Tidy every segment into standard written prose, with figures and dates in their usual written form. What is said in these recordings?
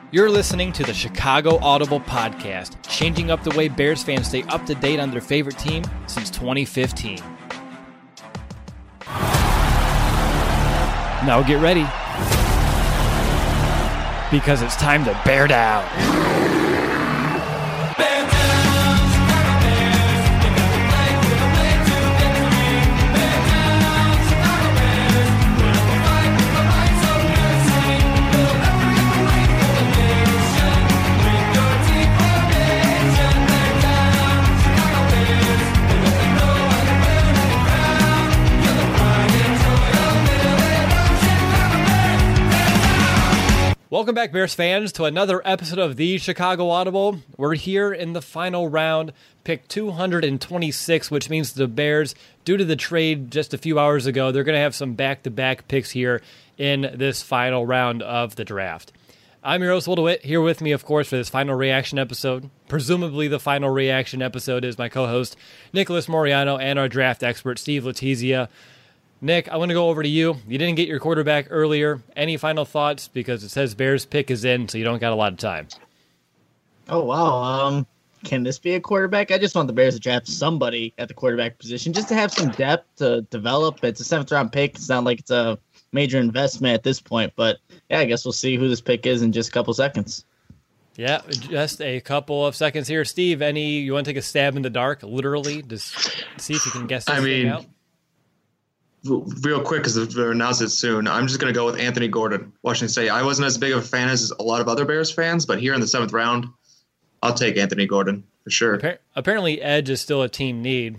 You're listening to the Chicago Audible Podcast, changing up the way Bears fans stay up to date on their favorite team since 2015. Now get ready, because it's time to bear down. Welcome back, Bears fans, to another episode of the Chicago Audible. We're here in the final round, pick 226, which means the Bears, due to the trade just a few hours ago, they're going to have some back-to-back picks here in this final round of the draft. I'm your host, Will DeWitt, here with me, of course, for this final reaction episode. Presumably the final reaction episode is my co-host, Nicholas Moriano, and our draft expert, Steve Letizia. Nick, I want to go over to you. You didn't get your quarterback earlier. Any final thoughts? Because it says Bears pick is in, so you don't got a lot of time. Oh, wow. Can this be a quarterback? I just want the Bears to draft somebody at the quarterback position just to have some depth to develop. It's a seventh-round pick. It's not like it's a major investment at this point. But, yeah, I guess we'll see who this pick is in just a couple seconds. Yeah, just a couple of seconds here. Steve, you want to take a stab in the dark, literally, just see if you can guess this thing out? Real quick, because they'll announce it soon, I'm just going to go with Anthony Gordon, Washington State. I wasn't as big of a fan as a lot of other Bears fans, but here in the seventh round, I'll take Anthony Gordon for sure. Apparently, Edge is still a team need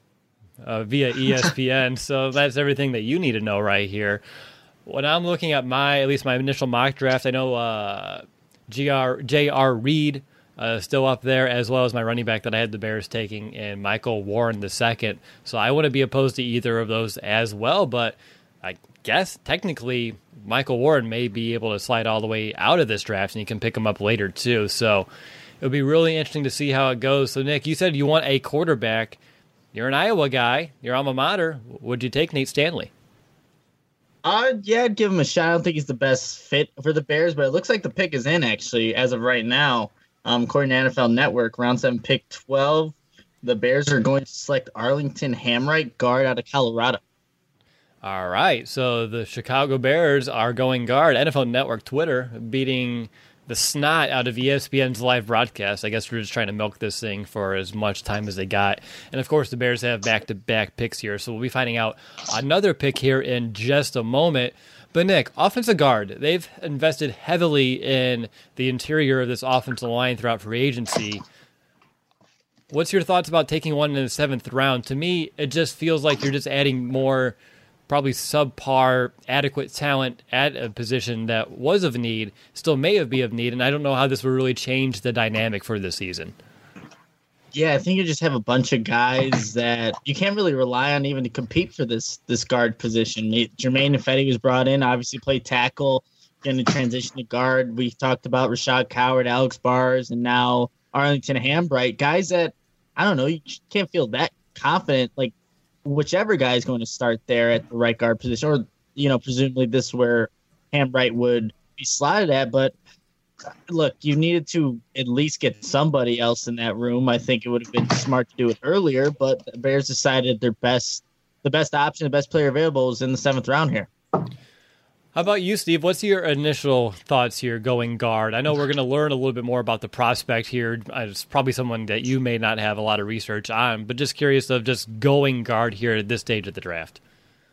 via ESPN, so that's everything that you need to know right here. When I'm looking at my initial mock draft, I know J.R. Reed still up there, as well as my running back that I had the Bears taking, and Michael Warren II. So I wouldn't be opposed to either of those as well, but I guess technically Michael Warren may be able to slide all the way out of this draft, and you can pick him up later too. So it'll be really interesting to see how it goes. So Nick, you said you want a quarterback. You're an Iowa guy. Your alma mater. Would you take Nate Stanley? Yeah, I'd give him a shot. I don't think he's the best fit for the Bears, but it looks like the pick is in, actually, as of right now. According to NFL Network, round 7, pick 12, the Bears are going to select Arlington Hamright, guard out of Colorado. All right, so the Chicago Bears are going guard. NFL Network Twitter beating the snot out of ESPN's live broadcast. I guess we're just trying to milk this thing for as much time as they got. And, of course, the Bears have back-to-back picks here, so we'll be finding out another pick here in just a moment. But, Nick, offensive guard, they've invested heavily in the interior of this offensive line throughout free agency. What's your thoughts about taking one in the 7th round? To me, it just feels like you're just adding more probably subpar, adequate talent at a position that was of need, still may be of need, and I don't know how this will really change the dynamic for this season. Yeah, I think you just have a bunch of guys that you can't really rely on even to compete for this guard position. Jermaine Ifedi was brought in, obviously played tackle, going to transition to guard. We talked about Rashad Coward, Alex Bars, and now Arlington Hamright. Guys that, I don't know, you can't feel that confident, like whichever guy is going to start there at the right guard position, or, presumably this is where Hamright would be slotted at, but look, you needed to at least get somebody else in that room. I think it would have been smart to do it earlier, but the Bears decided the best option, the best player available is in the 7th round here. How about you, Steve? What's your initial thoughts here going guard? I know we're going to learn a little bit more about the prospect here. It's probably someone that you may not have a lot of research on, but just curious of just going guard here at this stage of the draft.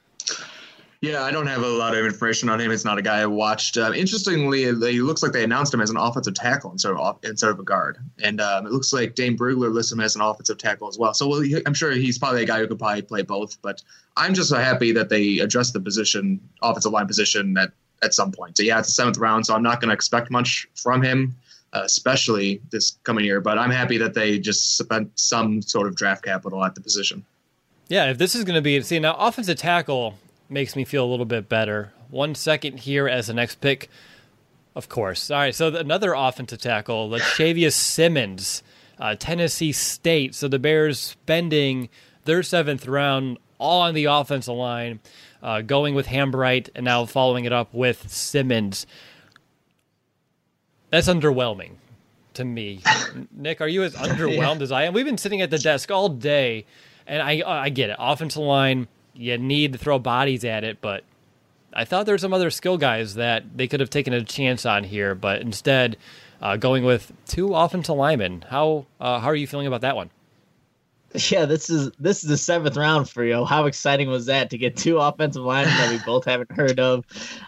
Yeah, I don't have a lot of information on him. It's not a guy I watched. Interestingly, it looks like they announced him as an offensive tackle instead of a guard. And it looks like Dane Brugler lists him as an offensive tackle as well. So I'm sure he's probably a guy who could probably play both. But I'm just so happy that they addressed the position, offensive line position, at some point. So, yeah, it's the 7th round, so I'm not going to expect much from him, especially this coming year. But I'm happy that they just spent some sort of draft capital at the position. Yeah, if this is going to be – see, now offensive tackle – makes me feel a little bit better. 1 second here as the next pick, of course. All right, so another offensive tackle, Latavius Simmons, Tennessee State. So the Bears spending their 7th round all on the offensive line, going with Hamright and now following it up with Simmons. That's underwhelming to me. Nick, are you as underwhelmed as I am? We've been sitting at the desk all day, and I get it. Offensive line, you need to throw bodies at it, but I thought there were some other skill guys that they could have taken a chance on here, but instead going with 2 offensive linemen. How are you feeling about that one? Yeah, this is the 7th round for you. How exciting was that to get 2 offensive linemen that we both haven't heard of?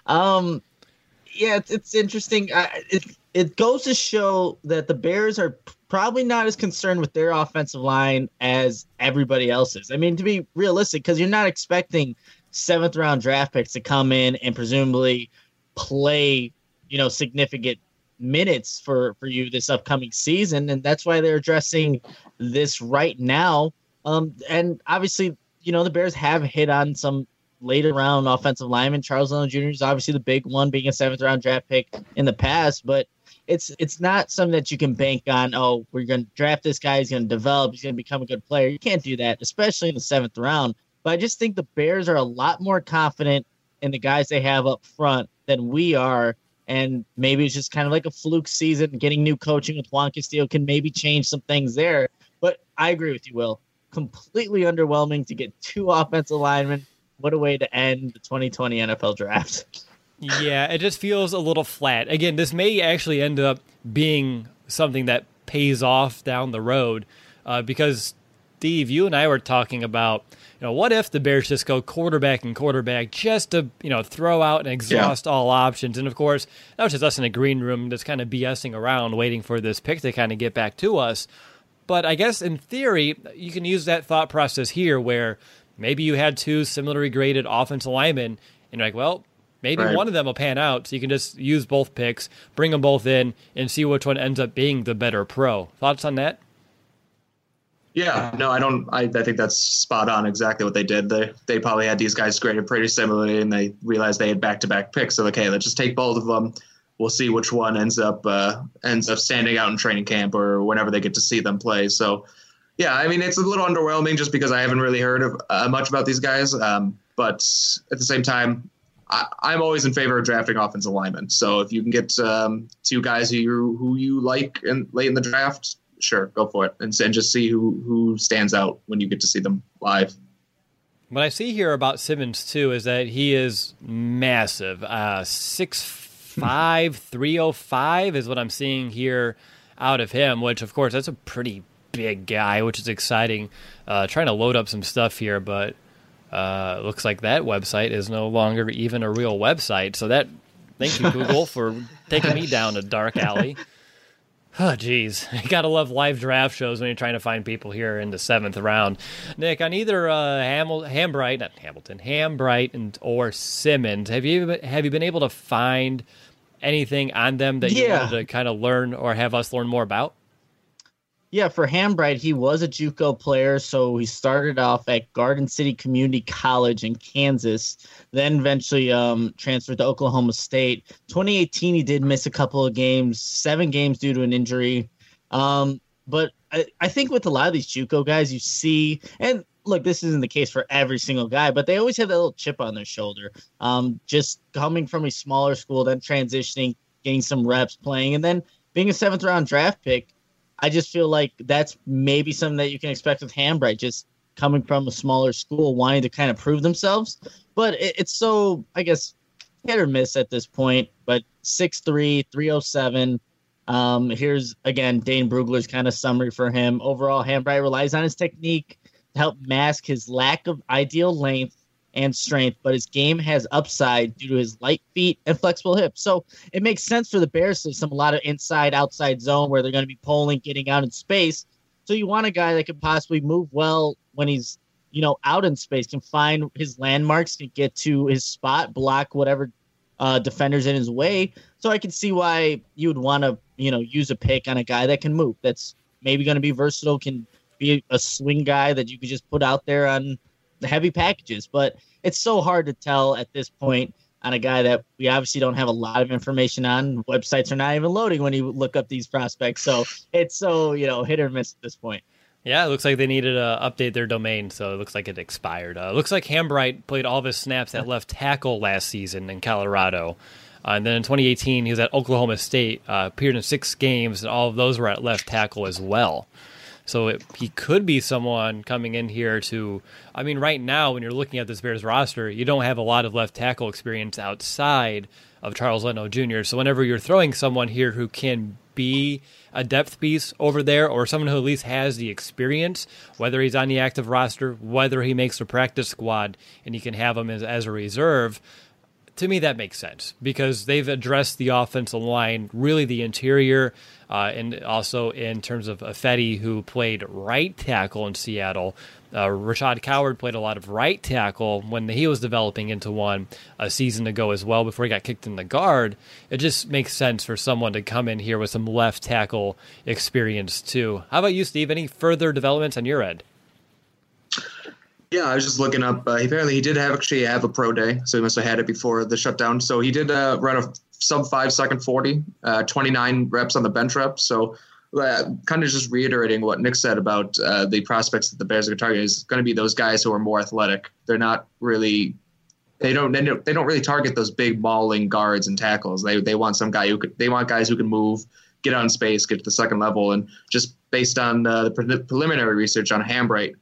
Yeah, it's interesting. It goes to show that the Bears are probably not as concerned with their offensive line as everybody else is. I mean, to be realistic, because you're not expecting 7th round draft picks to come in and presumably play, significant minutes for you this upcoming season. And that's why they're addressing this right now. And obviously, the Bears have hit on some later round offensive lineman. Charles Leno Jr. is obviously the big one, being a 7th round draft pick in the past, but it's not something that you can bank on. Oh, we're going to draft this guy. He's going to develop. He's going to become a good player. You can't do that, especially in the 7th round. But I just think the Bears are a lot more confident in the guys they have up front than we are. And maybe it's just kind of like a fluke season. Getting new coaching with Juan Castillo can maybe change some things there. But I agree with you, Will. Completely underwhelming to get 2 offensive linemen. What a way to end the 2020 NFL draft. Yeah, it just feels a little flat. Again, this may actually end up being something that pays off down the road because, Steve, you and I were talking about, what if the Bears just go quarterback and quarterback just to, throw out and exhaust all options? And, of course, that was just us in a green room just kind of BSing around waiting for this pick to kind of get back to us. But I guess in theory, you can use that thought process here where maybe you had 2 similarly graded offensive linemen and you're like, well, maybe one of them will pan out, so you can just use both picks, bring them both in, and see which one ends up being the better pro. Thoughts on that? Yeah, no, I don't. I think that's spot on. Exactly what they did. They probably had these guys graded pretty similarly, and they realized they had back-to-back picks. So, okay, let's just take both of them. We'll see which one ends up standing out in training camp or whenever they get to see them play. So, yeah, I mean, it's a little underwhelming just because I haven't really heard of much about these guys. But at the same time, I'm always in favor of drafting offensive linemen. So if you can get 2 guys who you like late in the draft, sure, go for it, and just see who stands out when you get to see them live. What I see here about Simmons too is that he is massive, 6'5", 305 is what I'm seeing here out of him. Which of course that's a pretty big guy, which is exciting. Trying to load up some stuff here, but. Looks like that website is no longer even a real website. So thank you, Google, for taking me down a dark alley. Oh, geez. You got to love live draft shows when you're trying to find people here in the 7th round. Nick, on either Hambright or Simmons, have you been able to find anything on them that you wanted to kind of learn or have us learn more about? Yeah, for Hambright, he was a JUCO player, so he started off at Garden City Community College in Kansas, then eventually transferred to Oklahoma State. 2018, he did miss a couple of games, 7 games due to an injury. But I think with a lot of these JUCO guys, you see, and look, this isn't the case for every single guy, but they always have that little chip on their shoulder. Just coming from a smaller school, then transitioning, getting some reps playing, and then being a 7th round draft pick. I just feel like that's maybe something that you can expect with Hambright, just coming from a smaller school, wanting to kind of prove themselves. But it's so, I guess, hit or miss at this point. But 6'3", 307. Here's, again, Dane Brugler's kind of summary for him. Overall, Hambright relies on his technique to help mask his lack of ideal length and strength, but his game has upside due to his light feet and flexible hips. So it makes sense for the Bears to a lot of inside-outside zone where they're going to be pulling, getting out in space. So you want a guy that can possibly move well when he's, out in space, can find his landmarks, can get to his spot, block whatever defenders in his way. So I can see why you would want to, use a pick on a guy that can move. That's maybe going to be versatile, can be a swing guy that you could just put out there on the heavy packages. But it's so hard to tell at this point on a guy that we obviously don't have a lot of information on. Websites are not even loading when you look up these prospects. So it's so, hit or miss at this point. Yeah, it looks like they needed to update their domain, so it looks like it expired. Looks like Hambright played all of his snaps at left tackle last season in Colorado. And then in 2018, he was at Oklahoma State, appeared in 6 games, and all of those were at left tackle as well. So he could be someone coming in here to, I mean, right now, when you're looking at this Bears roster, you don't have a lot of left tackle experience outside of Charles Leno Jr. So whenever you're throwing someone here who can be a depth piece over there, or someone who at least has the experience, whether he's on the active roster, whether he makes the practice squad, and you can have him as a reserve, to me that makes sense because they've addressed the offensive line, really the interior, and also in terms of Ifedi, who played right tackle in Seattle. Rashad Coward played a lot of right tackle when he was developing into one a season ago as well before he got kicked in the guard. It just makes sense for someone to come in here with some left tackle experience too. How about you, Steve? Any further developments on your end? Yeah, I was just looking up. Apparently, he did actually have a pro day, so he must have had it before the shutdown. So he did run a sub 5 second 40, 29 reps on the bench reps. So kind of just reiterating what Nick said about the prospects that the Bears are going to target is going to be those guys who are more athletic. They're not really they don't really target those big mauling guards and tackles. They want some guy they want guys who can move, get out in space, get to the second level, and just based on the preliminary research on Hambright.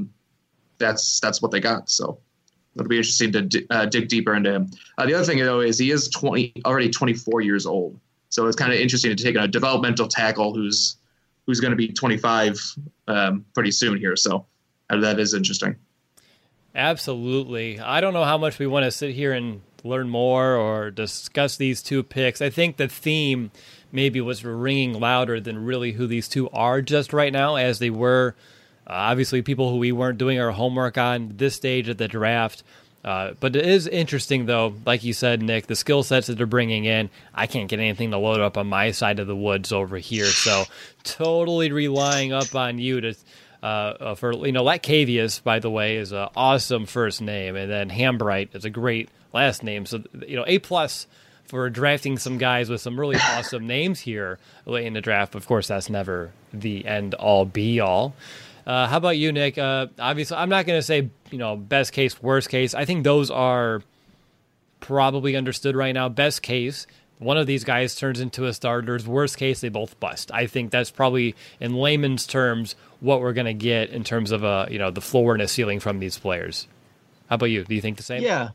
That's what they got. So it'll be interesting to dig deeper into him. The other thing, though, is he is already 24 years old. So it's kind of interesting to take a developmental tackle who's going to be 25 pretty soon here. So that is interesting. Absolutely. I don't know how much we want to sit here and learn more or discuss these two picks. I think the theme maybe was ringing louder than really who these two are just right now, as they were obviously people who we weren't doing our homework on this stage of the draft. But it is interesting, though, like you said, Nick, the skill sets that they're bringing in. I can't get anything to load up on my side of the woods over here. So totally relying up on you to for, Latcavius, by the way, is an awesome first name. And then Hambright is a great last name. So, A+ for drafting some guys with some really awesome names here late in the draft. Of course, that's never the end-all, be-all. How about you, Nick? Obviously, I'm not going to say, best case, worst case. I think those are probably understood right now. Best case, one of these guys turns into a starter. Worst case, they both bust. I think that's probably, in layman's terms, what we're going to get in terms of, the floor and a ceiling from these players. How about you? Do you think the same? Yeah.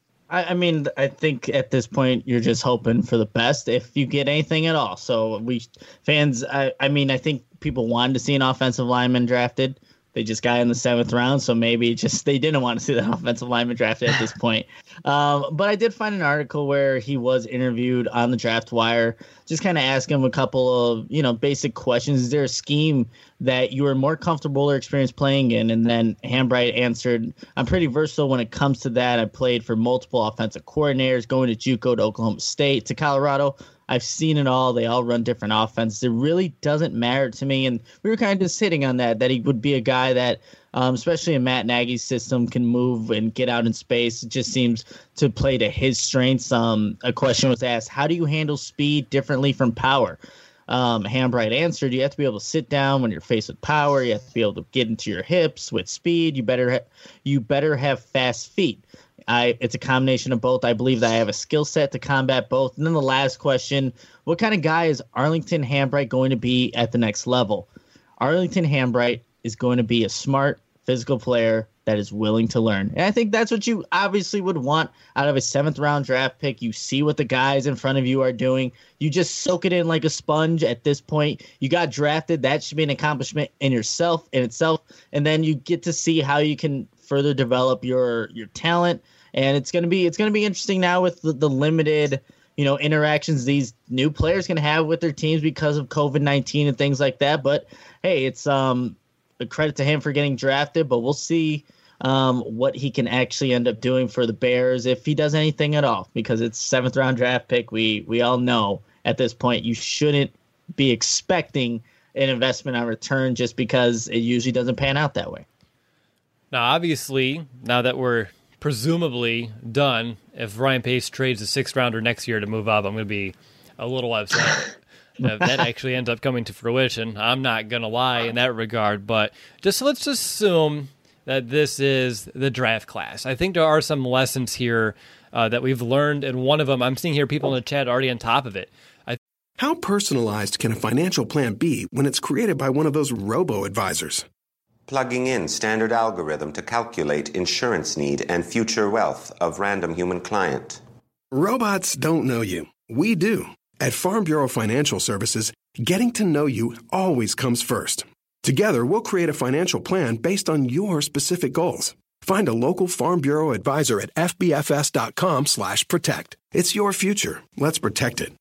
I mean, I think at this point you're just hoping for the best if you get anything at all. So fans, I think people wanted to see an offensive lineman drafted. They just got in the 7th round, so maybe they didn't want to see the offensive lineman drafted at this point. But I did find an article where he was interviewed on the Draft Wire, just kind of asking him a couple of, basic questions. Is there a scheme that you were more comfortable or experienced playing in? And then Hambright answered, I'm pretty versatile when it comes to that. I played for multiple offensive coordinators, going to JUCO, to Oklahoma State, to Colorado. I've seen it all. They all run different offenses. It really doesn't matter to me. And we were kind of just hitting on that he would be a guy that, especially in Matt Nagy's system, can move and get out in space. It just seems to play to his strengths. A question was asked, how do you handle speed differently from power? Hambright answered, you have to be able to sit down when you're faced with power. You have to be able to get into your hips with speed. You better have fast feet. It's a combination of both. I believe that I have a skill set to combat both. And then the last question, what kind of guy is Arlington Hambright going to be at the next level? Arlington Hambright is going to be a smart, physical player that is willing to learn. And I think that's what you obviously would want out of a 7th round draft pick. You see what the guys in front of you are doing. You just soak it in like a sponge at this point. You got drafted. That should be an accomplishment in itself. And then you get to see how you can further develop your talent. And it's gonna be interesting now with the limited, interactions these new players can have with their teams because of COVID-19 and things like that. But hey, it's a credit to him for getting drafted. But we'll see what he can actually end up doing for the Bears if he does anything at all. Because it's 7th round draft pick. We all know at this point you shouldn't be expecting an investment on return just because it usually doesn't pan out that way. Now, obviously, now that we're presumably done, if Ryan Pace trades a 6th rounder next year to move up, I'm going to be a little upset. If that actually ends up coming to fruition, I'm not going to lie in that regard. But let's assume that this is the draft class. I think there are some lessons here that we've learned, and one of them, I'm seeing here people in the chat already on top of it. How personalized can a financial plan be when it's created by one of those robo-advisors? Plugging in standard algorithm to calculate insurance need and future wealth of random human client. Robots don't know you. We do. At Farm Bureau Financial Services, getting to know you always comes first. Together, we'll create a financial plan based on your specific goals. Find a local Farm Bureau advisor at fbfs.com/protect. It's your future. Let's protect it.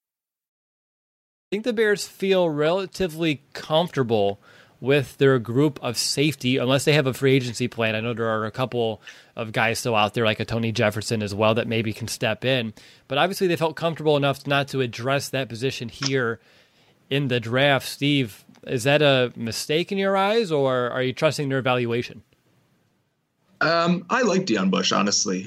I think the Bears feel relatively comfortable with their group of safety, unless they have a free agency plan. I know there are a couple of guys still out there, like a Tony Jefferson as well, that maybe can step in. But obviously they felt comfortable enough not to address that position here in the draft. Steve, is that a mistake in your eyes, or are you trusting their evaluation? I like Deion Bush, honestly.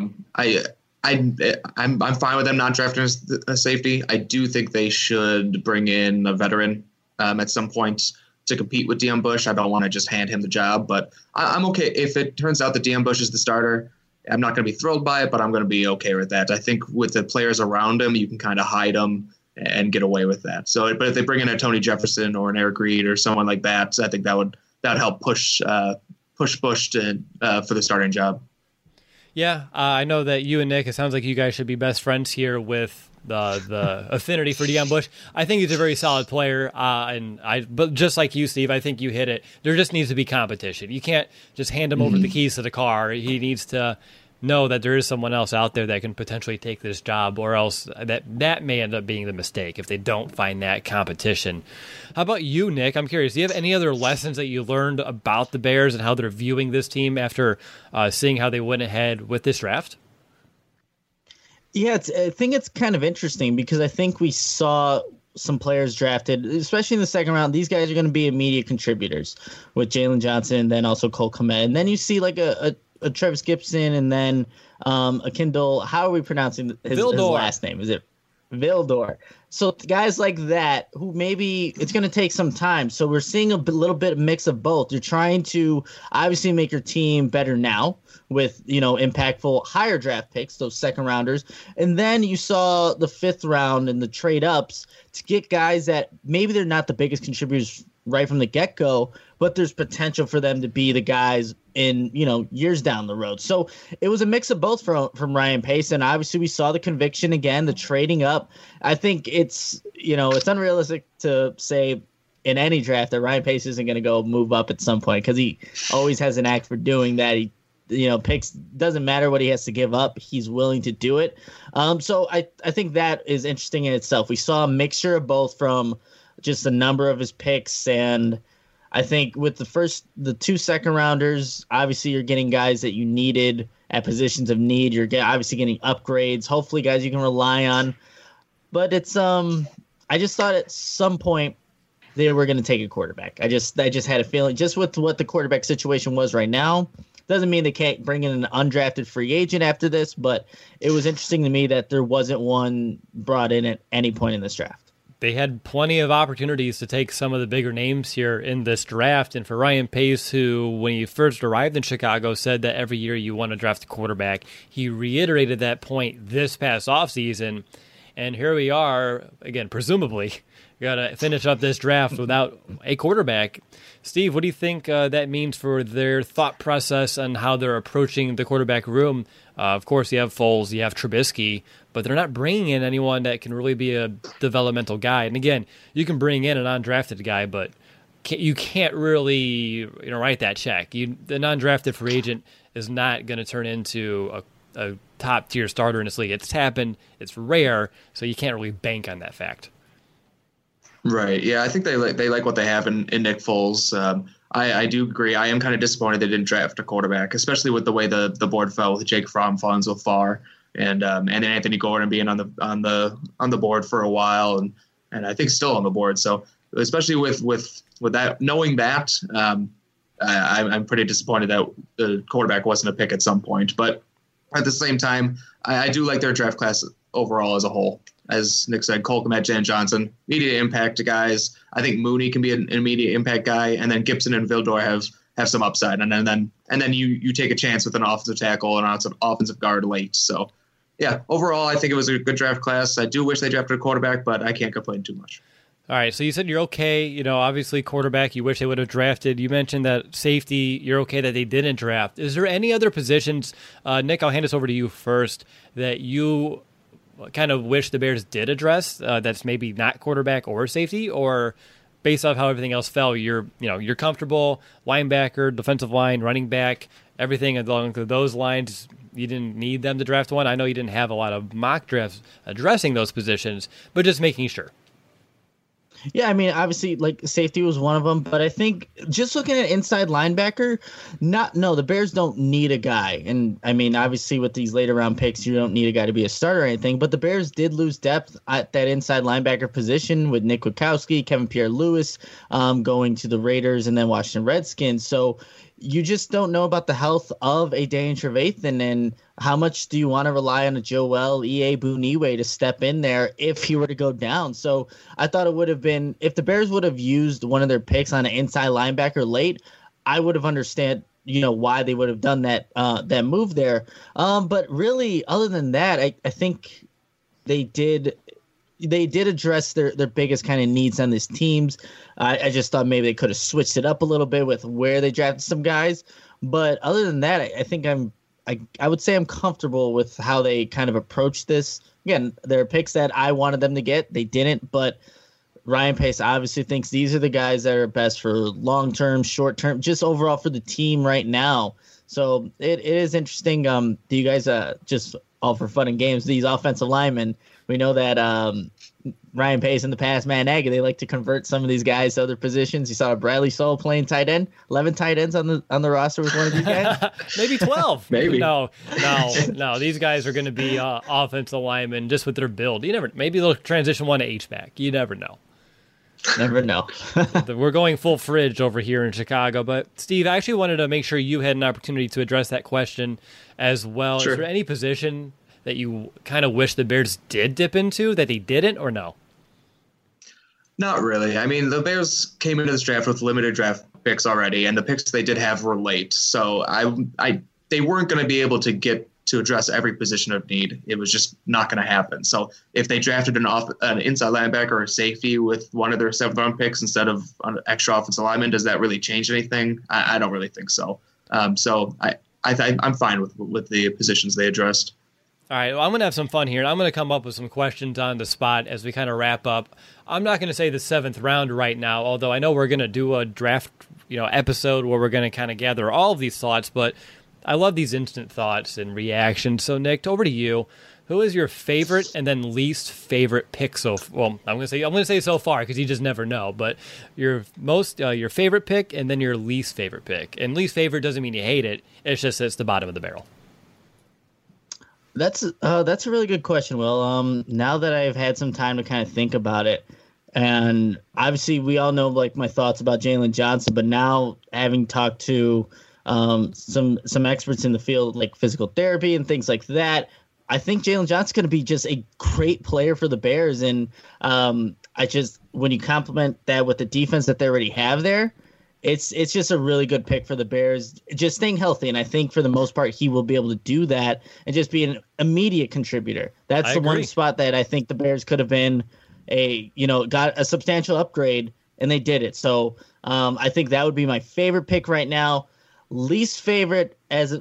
I'm fine with them not drafting a safety. I do think they should bring in a veteran at some point to compete with Deion Bush. I don't want to just hand him the job, but I'm okay if it turns out that Deion Bush is the starter. I'm not going to be thrilled by it, but I'm going to be okay with that. I think with the players around him, you can kind of hide them and get away with that. So, but if they bring in a Tony Jefferson or an Eric Reed or someone like that, I think that would help push Bush to for the starting job. Yeah, I know that you and Nick, it sounds like you guys should be best friends here with the affinity for Deion Bush. I think he's a very solid player, but just like you, Steve, I think you hit it. There just needs to be competition. You can't just hand him over the keys to the car. He needs to know that there is someone else out there that can potentially take this job, or else that may end up being the mistake if they don't find that competition. How about you, Nick? I'm curious, do you have any other lessons that you learned about the Bears and how they're viewing this team after seeing how they went ahead with this draft? Yeah, I think it's kind of interesting because I think we saw some players drafted, especially in the second round. These guys are going to be immediate contributors with Jalen Johnson and then also Cole Kmet. And then you see like a Travis Gibson and then a Kendall. How are we pronouncing his last name? Is it Vildor? So guys like that who maybe it's going to take some time. So we're seeing a little bit of mix of both. You're trying to obviously make your team better now with, impactful higher draft picks, those second rounders. And then you saw the fifth round and the trade ups to get guys that maybe they're not the biggest contributors right from the get-go, but there's potential for them to be the guys in, years down the road. So it was a mix of both from Ryan Pace. And obviously we saw the conviction again, the trading up. I think it's unrealistic to say in any draft that Ryan Pace isn't going to go move up at some point because he always has an act for doing that. He picks, doesn't matter what he has to give up. He's willing to do it. So I think that is interesting in itself. We saw a mixture of both from just the number of his picks. And I think with the two second rounders, obviously you're getting guys that you needed at positions of need. You're obviously getting upgrades, hopefully guys you can rely on. But it's, I just thought at some point they were going to take a quarterback. I just had a feeling just with what the quarterback situation was right now. Doesn't mean they can't bring in an undrafted free agent after this, but it was interesting to me that there wasn't one brought in at any point in this draft. They had plenty of opportunities to take some of the bigger names here in this draft. And for Ryan Pace, who, when he first arrived in Chicago, said that every year you want to draft a quarterback, he reiterated that point this past offseason. And here we are, again, presumably, got to finish up this draft without a quarterback. Steve, what do you think that means for their thought process and how they're approaching the quarterback room? Of course, you have Foles, you have Trubisky, but they're not bringing in anyone that can really be a developmental guy. And again, you can bring in an undrafted guy, but you can't really write that check. The non-drafted free agent is not going to turn into a top-tier starter in this league. It's happened. It's rare, so you can't really bank on that fact. Right. Yeah, I think they like what they have in Nick Foles. I do agree. I am kind of disappointed they didn't draft a quarterback, especially with the way the board fell with Jake Fromm falling so far, and then Anthony Gordon being on the board for a while, and I think still on the board. So especially with that, knowing that, I'm pretty disappointed that the quarterback wasn't a pick at some point. But at the same time, I do like their draft class overall as a whole. As Nick said, Cole Kmet, Jan Johnson, immediate impact guys. I think Mooney can be an immediate impact guy, and then Gibson and Vildor have some upside, and then you take a chance with an offensive tackle and an offensive guard late. So, yeah, overall, I think it was a good draft class. I do wish they drafted a quarterback, but I can't complain too much. All right, so you said you're okay. Obviously quarterback, you wish they would have drafted. You mentioned that safety, you're okay that they didn't draft. Is there any other positions, Nick, I'll hand this over to you first, that you kind of wish the Bears did address that's maybe not quarterback or safety, or based off how everything else fell, you're comfortable, linebacker, defensive line, running back, everything along those lines, you didn't need them to draft one? I know you didn't have a lot of mock drafts addressing those positions, but just making sure. Yeah, I mean, obviously, like, safety was one of them, but I think just looking at inside linebacker, the Bears don't need a guy. And, I mean, obviously, with these later round picks, you don't need a guy to be a starter or anything, but the Bears did lose depth at that inside linebacker position with Nick Witkowski, Kevin Pierre-Louis going to the Raiders and then Washington Redskins. So you just don't know about the health of a Daniel Trevathan, and how much do you want to rely on a Joel Iyiegbuniwe to step in there if he were to go down? So I thought it would have been, if the Bears would have used one of their picks on an inside linebacker late, I would have understood, why they would have done that move there. But really, other than that, I think they did address their biggest kind of needs on these teams. I just thought maybe they could have switched it up a little bit with where they drafted some guys. But other than that, I think I would say I'm comfortable with how they kind of approached this. Again, there are picks that I wanted them to get. They didn't, but Ryan Pace obviously thinks these are the guys that are best for long-term, short-term, just overall for the team right now. So it is interesting. Do you guys, just all for fun and games, these offensive linemen, we know that Ryan Pace in the past, Matt Nagy, they like to convert some of these guys to other positions. You saw Bradley Soul playing tight end, 11 tight ends on the roster with one of these guys. Maybe 12. Maybe. No. These guys are going to be offensive linemen just with their build. Maybe they'll transition one to H-back. You never know. Never know. We're going full fridge over here in Chicago. But, Steve, I actually wanted to make sure you had an opportunity to address that question as well. Sure. Is there any position that you kind of wish the Bears did dip into that they didn't, or no? Not really. I mean, the Bears came into this draft with limited draft picks already, and the picks they did have were late. So they weren't going to be able to get to address every position of need. It was just not going to happen. So if they drafted an inside linebacker or safety with one of their 7th round picks instead of an extra offensive lineman, does that really change anything? I don't really think so. So I'm fine with the positions they addressed. All right, well, I'm going to have some fun here. I'm going to come up with some questions on the spot as we kind of wrap up. I'm not going to say the 7th round right now, although I know we're going to do a draft episode where we're going to kind of gather all of these thoughts, but I love these instant thoughts and reactions. So, Nick, over to you. Who is your favorite and then least favorite pick I'm going to say so far because you just never know, but your favorite pick and then your least favorite pick. And least favorite doesn't mean you hate it. It's just it's the bottom of the barrel. That's a really good question, Will. Now that I've had some time to kind of think about it, and obviously we all know like my thoughts about Jalen Johnson, but now having talked to some experts in the field like physical therapy and things like that, I think Jalen Johnson's going to be just a great player for the Bears. And when you complement that with the defense that they already have there, it's just a really good pick for the Bears, just staying healthy. And I think for the most part, he will be able to do that and just be an immediate contributor. That's the one spot that I think the Bears could have been got a substantial upgrade, and they did it. So I think that would be my favorite pick right now. Least favorite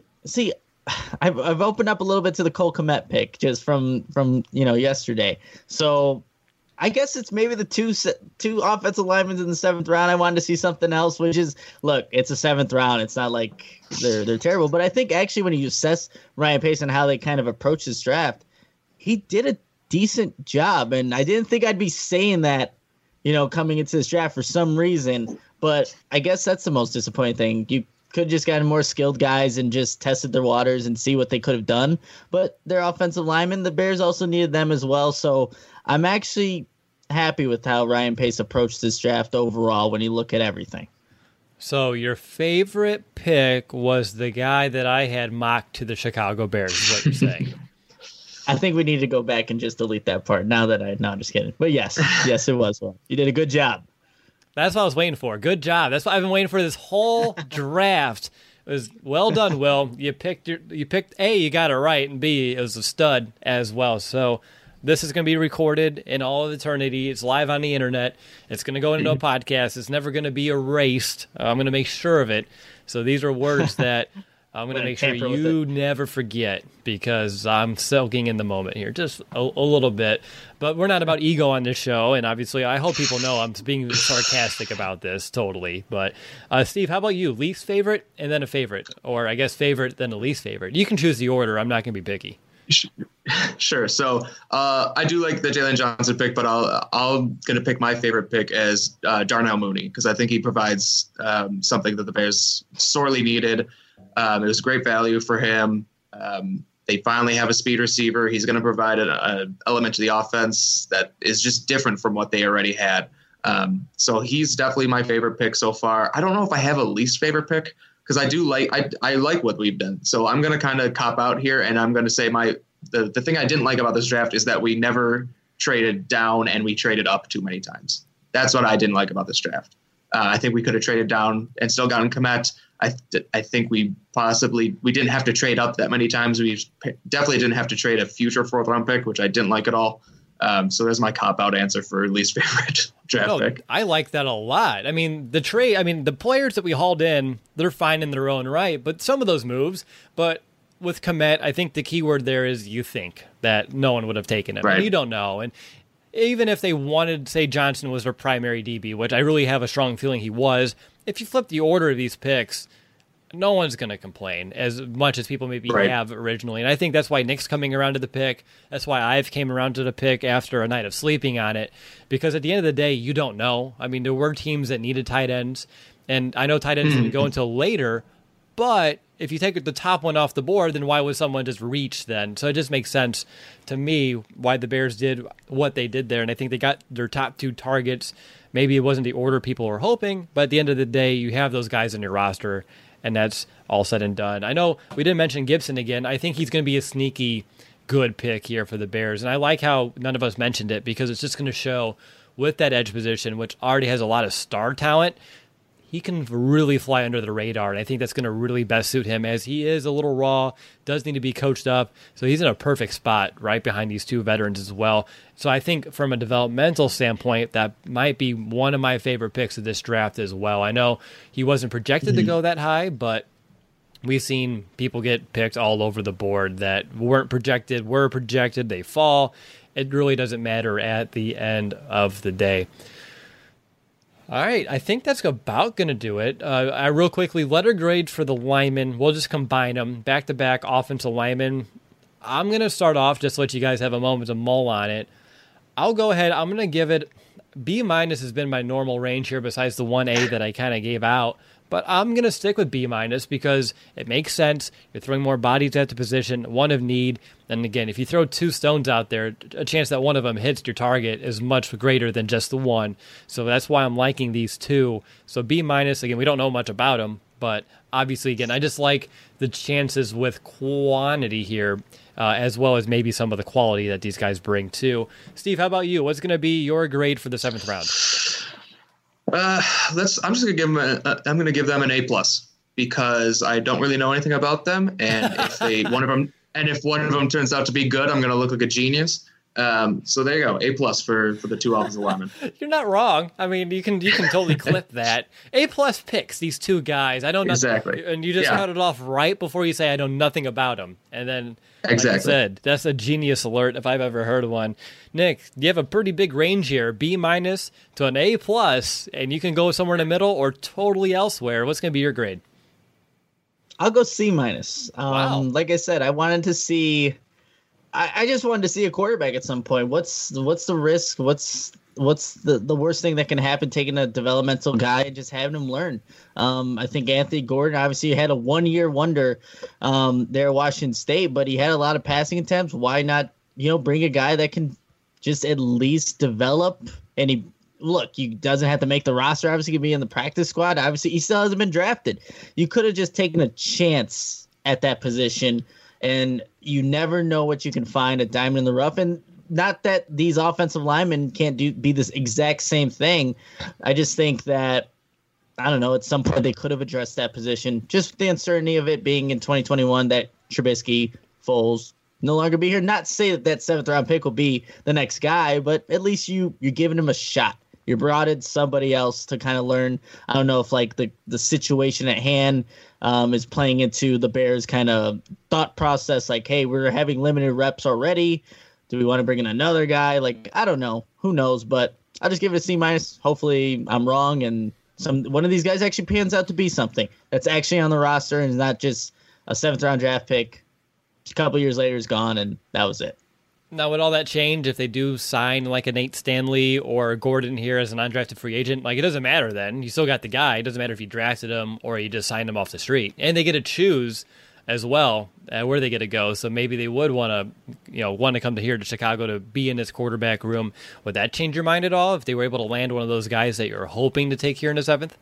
I've opened up a little bit to the Cole Kmet pick just from yesterday. So I guess it's maybe the two offensive linemen in the 7th round. I wanted to see something else, which is, look, it's a 7th round. It's not like they're terrible. But I think actually when you assess Ryan Pace and how they kind of approach this draft, he did a decent job. And I didn't think I'd be saying that, coming into this draft for some reason. But I guess that's the most disappointing thing. You could just gotten more skilled guys and just tested their waters and see what they could have done. But their offensive linemen, the Bears also needed them as well. So I'm actually happy with how Ryan Pace approached this draft overall when you look at everything. So your favorite pick was the guy that I had mocked to the Chicago Bears, is what you're saying. I think we need to go back and just delete that part. No, I'm just kidding. But yes, it was one. You did a good job. That's what I was waiting for. Good job. That's what I've been waiting for this whole draft. It was well done, Will. You picked A, you got it right, and B, it was a stud as well. So this is going to be recorded in all of eternity. It's live on the internet. It's going to go into a podcast. It's never going to be erased. I'm going to make sure of it. So these are words that I'm going to make sure you never forget, because I'm soaking in the moment here just a little bit. But we're not about ego on this show, and obviously I hope people know I'm being sarcastic about this totally. But Steve, how about you? Least favorite and then a favorite, or I guess favorite then a least favorite. You can choose the order. I'm not going to be picky. Sure. So I do like the Jalen Johnson pick, but I'm going to pick my favorite pick as Darnell Mooney, because I think he provides something that the Bears sorely needed. It was great value for him. They finally have a speed receiver. He's going to provide an element to the offense that is just different from what they already had. So he's definitely my favorite pick so far. I don't know if I have a least favorite pick, because I do I like what we've done. So I'm going to kind of cop out here, and I'm going to say the thing I didn't like about this draft is that we never traded down and we traded up too many times. That's what I didn't like about this draft. I think we could have traded down and still gotten Kmet. I think we didn't have to trade up that many times. We definitely didn't have to trade a future 4th round pick, which I didn't like at all. So there's my cop-out answer for least favorite draft pick. I like that a lot. I mean, the players that we hauled in, they're fine in their own right, but some of those moves, but with Kmet, I think the key word there is you think that no one would have taken him. Right. And you don't know. And even if they wanted, say, Johnson was their primary DB, which I really have a strong feeling he was, if you flip the order of these picks, no one's going to complain as much as people maybe have originally. And I think that's why Nick's coming around to the pick. That's why I've came around to the pick after a night of sleeping on it. Because at the end of the day, you don't know. I mean, there were teams that needed tight ends. And I know tight ends didn't go until later. But if you take the top one off the board, then why would someone just reach then? So it just makes sense to me why the Bears did what they did there. And I think they got their top 2 targets. Maybe it wasn't the order people were hoping. But at the end of the day, you have those guys in your roster. And that's all said and done. I know we didn't mention Gibson again. I think he's going to be a sneaky good pick here for the Bears. And I like how none of us mentioned it, because it's just going to show with that edge position, which already has a lot of star talent, he can really fly under the radar. And I think that's going to really best suit him, as he is a little raw, does need to be coached up. So he's in a perfect spot right behind these 2 veterans as well. So I think from a developmental standpoint, that might be one of my favorite picks of this draft as well. I know he wasn't projected to go that high, but we've seen people get picked all over the board that were projected, they fall. It really doesn't matter at the end of the day. All right, I think that's about going to do it. I real quickly, letter grades for the linemen. We'll just combine them. Back-to-back offensive linemen. I'm going to start off, just to let you guys have a moment to mull on it. I'll go ahead. I'm going to give it B- has been my normal range here, besides the 1A that I kind of gave out. But I'm going to stick with B- because it makes sense. You're throwing more bodies at the position, one of need. And again, if you throw 2 stones out there, a chance that one of them hits your target is much greater than just the one. So that's why I'm liking these 2. So B-, again, we don't know much about them. But obviously, again, I just like the chances with quantity here, as well as maybe some of the quality that these guys bring too. Steve, how about you? What's going to be your grade for the 7th round? I'm just going to give them. I'm going to give them an A+, because I don't really know anything about them, and if one of them turns out to be good, I'm going to look like a genius. So there you go, A+ for the 2 offensive linemen. You're not wrong. I mean, you can totally clip that. A+ picks these 2 guys. I don't know exactly, and you just cut it off right before you say I know nothing about them, and then exactly. Like I said, that's a genius alert if I've ever heard of one. Nick, you have a pretty big range here, B- to an A+, and you can go somewhere in the middle or totally elsewhere. What's going to be your grade? I'll go C-. Wow. Like I said, I wanted to see. I just wanted to see a quarterback at some point. What's the risk? What's the worst thing that can happen taking a developmental guy and just having him learn? I think Anthony Gordon obviously had a 1-year wonder there at Washington State, but he had a lot of passing attempts. Why not, bring a guy that can just at least develop? And he doesn't have to make the roster. Obviously, he can be in the practice squad. Obviously, he still hasn't been drafted. You could have just taken a chance at that position, and you never know what you can find, a diamond in the rough. And not that these offensive linemen can't be this exact same thing. I just think that, I don't know, at some point they could have addressed that position. Just the uncertainty of it being in 2021 that Trubisky, Foles no longer be here. Not to say that 7th round pick will be the next guy, but at least you're giving him a shot. You brought in somebody else to kind of learn. I don't know if like the situation at hand is playing into the Bears' kind of thought process. Like, hey, we're having limited reps already. Do we want to bring in another guy? Like, I don't know. Who knows? But I'll just give it a C-. Hopefully I'm wrong and one of these guys actually pans out to be something that's actually on the roster and is not just a 7th round draft pick. A couple years later is gone and that was it. Now, would all that change if they do sign like a Nate Stanley or Gordon here as an undrafted free agent? Like, it doesn't matter then. You still got the guy. It doesn't matter if you drafted him or you just signed him off the street. And they get to choose as well where they get to go. So maybe they would want to come to here to Chicago to be in this quarterback room. Would that change your mind at all if they were able to land one of those guys that you're hoping to take here in the 7th?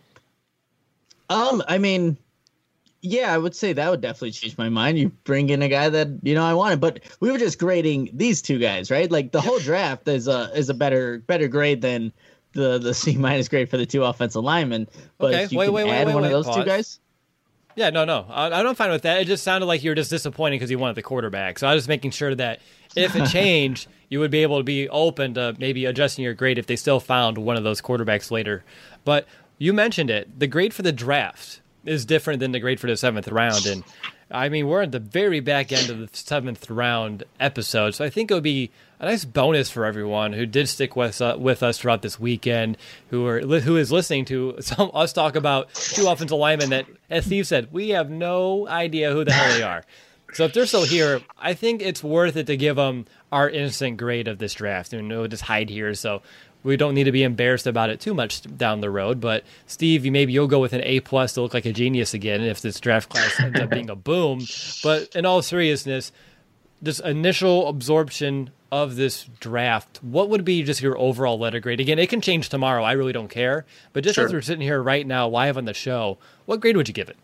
I mean, yeah, I would say that would definitely change my mind. You bring in a guy that, I wanted, but we were just grading these two guys, right? Like the whole draft is a better grade than the C- grade for the 2 offensive linemen. But okay, if you add one of those pause. 2 guys. Yeah, no. I'm fine with that. It just sounded like you were just disappointed because you wanted the quarterback. So I was just making sure that if it changed, you would be able to be open to maybe adjusting your grade if they still found one of those quarterbacks later. But you mentioned it. The grade for the draft is different than the grade for the 7th round. And I mean, we're at the very back end of the 7th round episode. So I think it would be a nice bonus for everyone who did stick with us throughout this weekend, who is listening to us talk about 2 offensive linemen that, as Steve said, we have no idea who the hell they are. So if they're still here, I think it's worth it to give them our instant grade of this draft. And we'll just hide here. So we don't need to be embarrassed about it too much down the road. But Steve, maybe you'll go with an A+ to look like a genius again if this draft class ends up being a boom. But in all seriousness, this initial absorption of this draft, what would be just your overall letter grade? Again, it can change tomorrow. I really don't care. But just as we're sitting here right now, live on the show, what grade would you give it?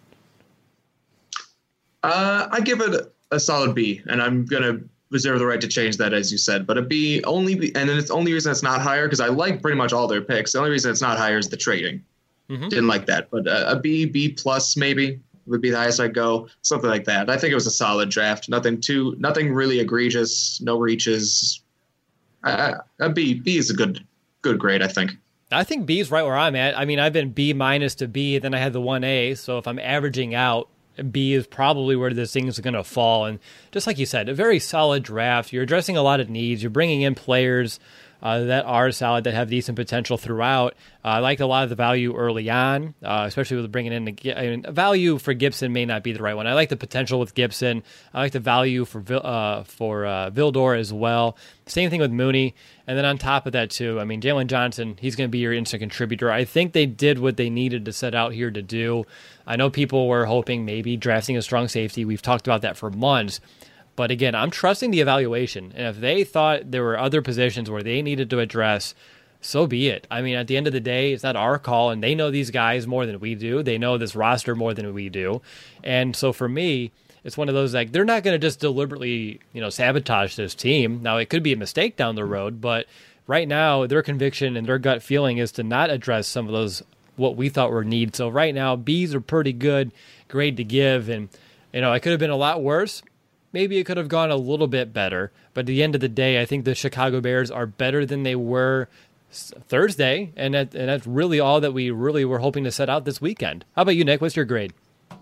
I give it a solid B, and I'm going to reserve the right to change that, as you said. But a B only, and then it's the only reason it's not higher, because I like pretty much all their picks. The only reason it's not higher is the trading. Mm-hmm. Didn't like that. But a B+ maybe would be the highest I'd go, something like that. I think it was a solid draft. Nothing really egregious, no reaches. A B is a good grade, I think. I think B is right where I'm at. I mean, I've been B- to B, then I had the 1A. So if I'm averaging out, B is probably where this thing is going to fall. And just like you said, a very solid draft. You're addressing a lot of needs. You're bringing in players that are solid, that have decent potential throughout. I liked a lot of the value early on, especially with bringing in value for Gibson may not be the right one. I like the potential with Gibson. I like the value for Vildor as well. Same thing with Mooney. And then on top of that, too, I mean, Jalen Johnson, he's going to be your instant contributor. I think they did what they needed to set out here to do. I know people were hoping maybe drafting a strong safety. We've talked about that for months. But again, I'm trusting the evaluation. And if they thought there were other positions where they needed to address, so be it. I mean, at the end of the day, it's not our call, and they know these guys more than we do. They know this roster more than we do. And so for me, it's one of those, like, they're not going to just deliberately, sabotage this team. Now, it could be a mistake down the road, but right now, their conviction and their gut feeling is to not address some of those, what we thought were needs. So right now, B's are pretty good grade to give. And, it could have been a lot worse. Maybe it could have gone a little bit better. But at the end of the day, I think the Chicago Bears are better than they were Thursday. And that's really all that we really were hoping to set out this weekend. How about you, Nick? What's your grade?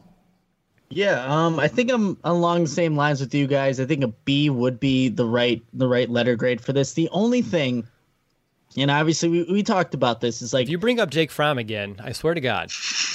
Yeah, I think I'm along the same lines with you guys. I think a B would be the right letter grade for this. The only thing, and obviously we talked about this, is like, if you bring up Jake Fromm again, I swear to God.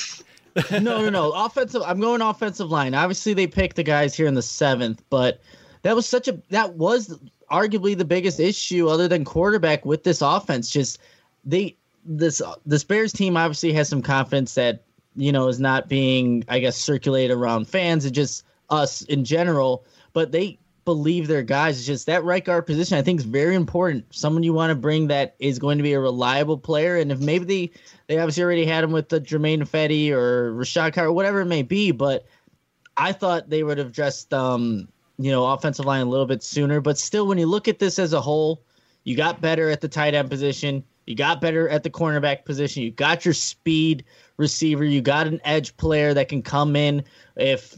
No. Offensive. I'm going offensive line. Obviously, they picked the guys here in the 7th, but that was arguably the biggest issue other than quarterback with this offense. Just this Bears team obviously has some confidence that is not being, I guess, circulated around fans and just us in general. But they believe their guys. It's just that right guard position, I think, is very important. Someone you want to bring that is going to be a reliable player. And if maybe they obviously already had him with the Jermaine Ifedi or Rashad Carter, whatever it may be, but I thought they would have addressed offensive line a little bit sooner. But still, when you look at this as a whole, you got better at the tight end position. You got better at the cornerback position. You got your speed receiver. You got an edge player that can come in if,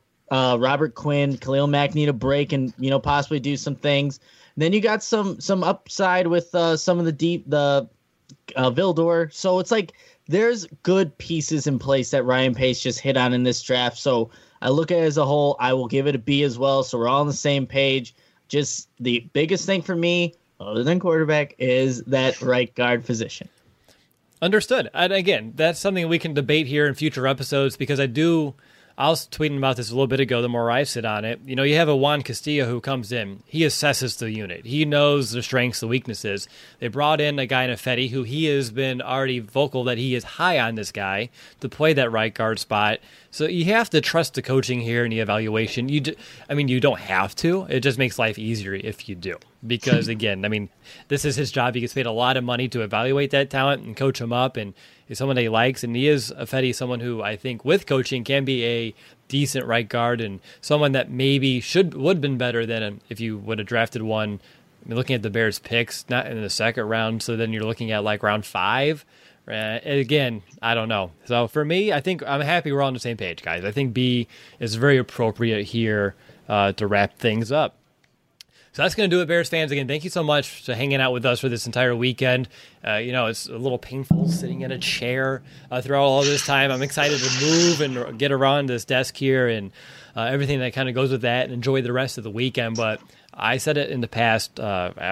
Robert Quinn, Khalil Mack need a break and, possibly do some things. And then you got some upside with some of the Vildor. So it's like there's good pieces in place that Ryan Pace just hit on in this draft. So I look at it as a whole. I will give it a B as well. So we're all on the same page. Just the biggest thing for me, other than quarterback, is that right guard position. Understood. And again, that's something we can debate here in future episodes because I was tweeting about this a little bit ago, the more I sit on it. You have a Juan Castillo who comes in. He assesses the unit. He knows the strengths, the weaknesses. They brought in a guy in Ifedi who he has been already vocal that he is high on this guy to play that right guard spot. So you have to trust the coaching here and the evaluation. You don't have to. It just makes life easier if you do. Because, again, this is his job. He gets paid a lot of money to evaluate that talent and coach him up. And he's someone that he likes. And he is, Ifedi, someone who I think with coaching can be a decent right guard and someone that maybe would have been better than if you would have drafted one. Looking at the Bears picks, not in the second round. So then you're looking at like round 5. Again, I don't know. So for me, I think I'm happy we're all on the same page, guys. I think B is very appropriate here to wrap things up. So that's going to do it, Bears fans. Again, thank you so much for hanging out with us for this entire weekend. It's a little painful sitting in a chair throughout all this time. I'm excited to move and get around this desk here and everything that kind of goes with that and enjoy the rest of the weekend. But I said it in the past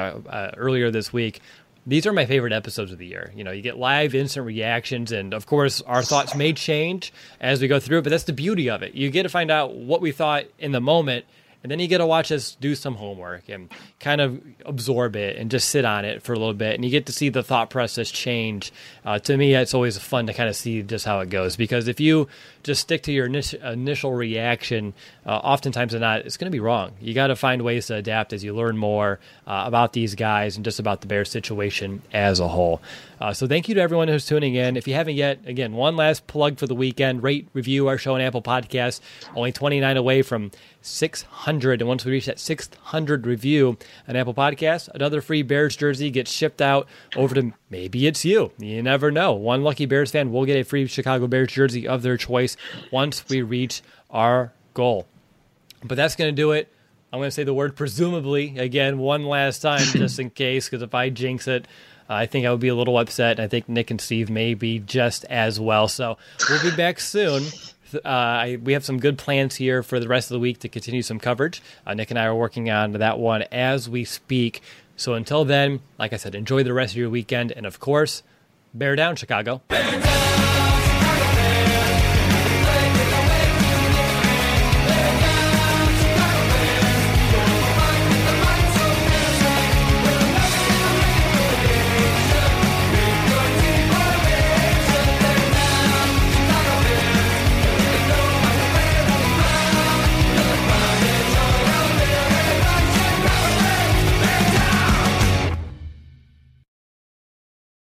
earlier this week. These are my favorite episodes of the year. You get live, instant reactions, and of course, our thoughts may change as we go through it, but that's the beauty of it. You get to find out what we thought in the moment, and then you get to watch us do some homework and kind of absorb it and just sit on it for a little bit. And you get to see the thought process change. To me, it's always fun to kind of see just how it goes. Because if you just stick to your initial reaction, oftentimes or not, it's going to be wrong. You got to find ways to adapt as you learn more about these guys and just about the Bears situation as a whole. So thank you to everyone who's tuning in. If you haven't yet, again, one last plug for the weekend. Rate, review our show on Apple Podcasts. Only 29 away from 600. And once we reach that 600 review on Apple Podcasts, another free Bears jersey gets shipped out over to maybe it's you. You never know. One lucky Bears fan will get a free Chicago Bears jersey of their choice once we reach our goal. But that's going to do it. I'm going to say the word presumably again one last time just in case, because if I jinx it, I think I would be a little upset. I think Nick and Steve may be just as well. So we'll be back soon. We have some good plans here for the rest of the week to continue some coverage. Nick and I are working on that one as we speak. So until then, like I said, enjoy the rest of your weekend. And of course, bear down, Chicago. Bear down!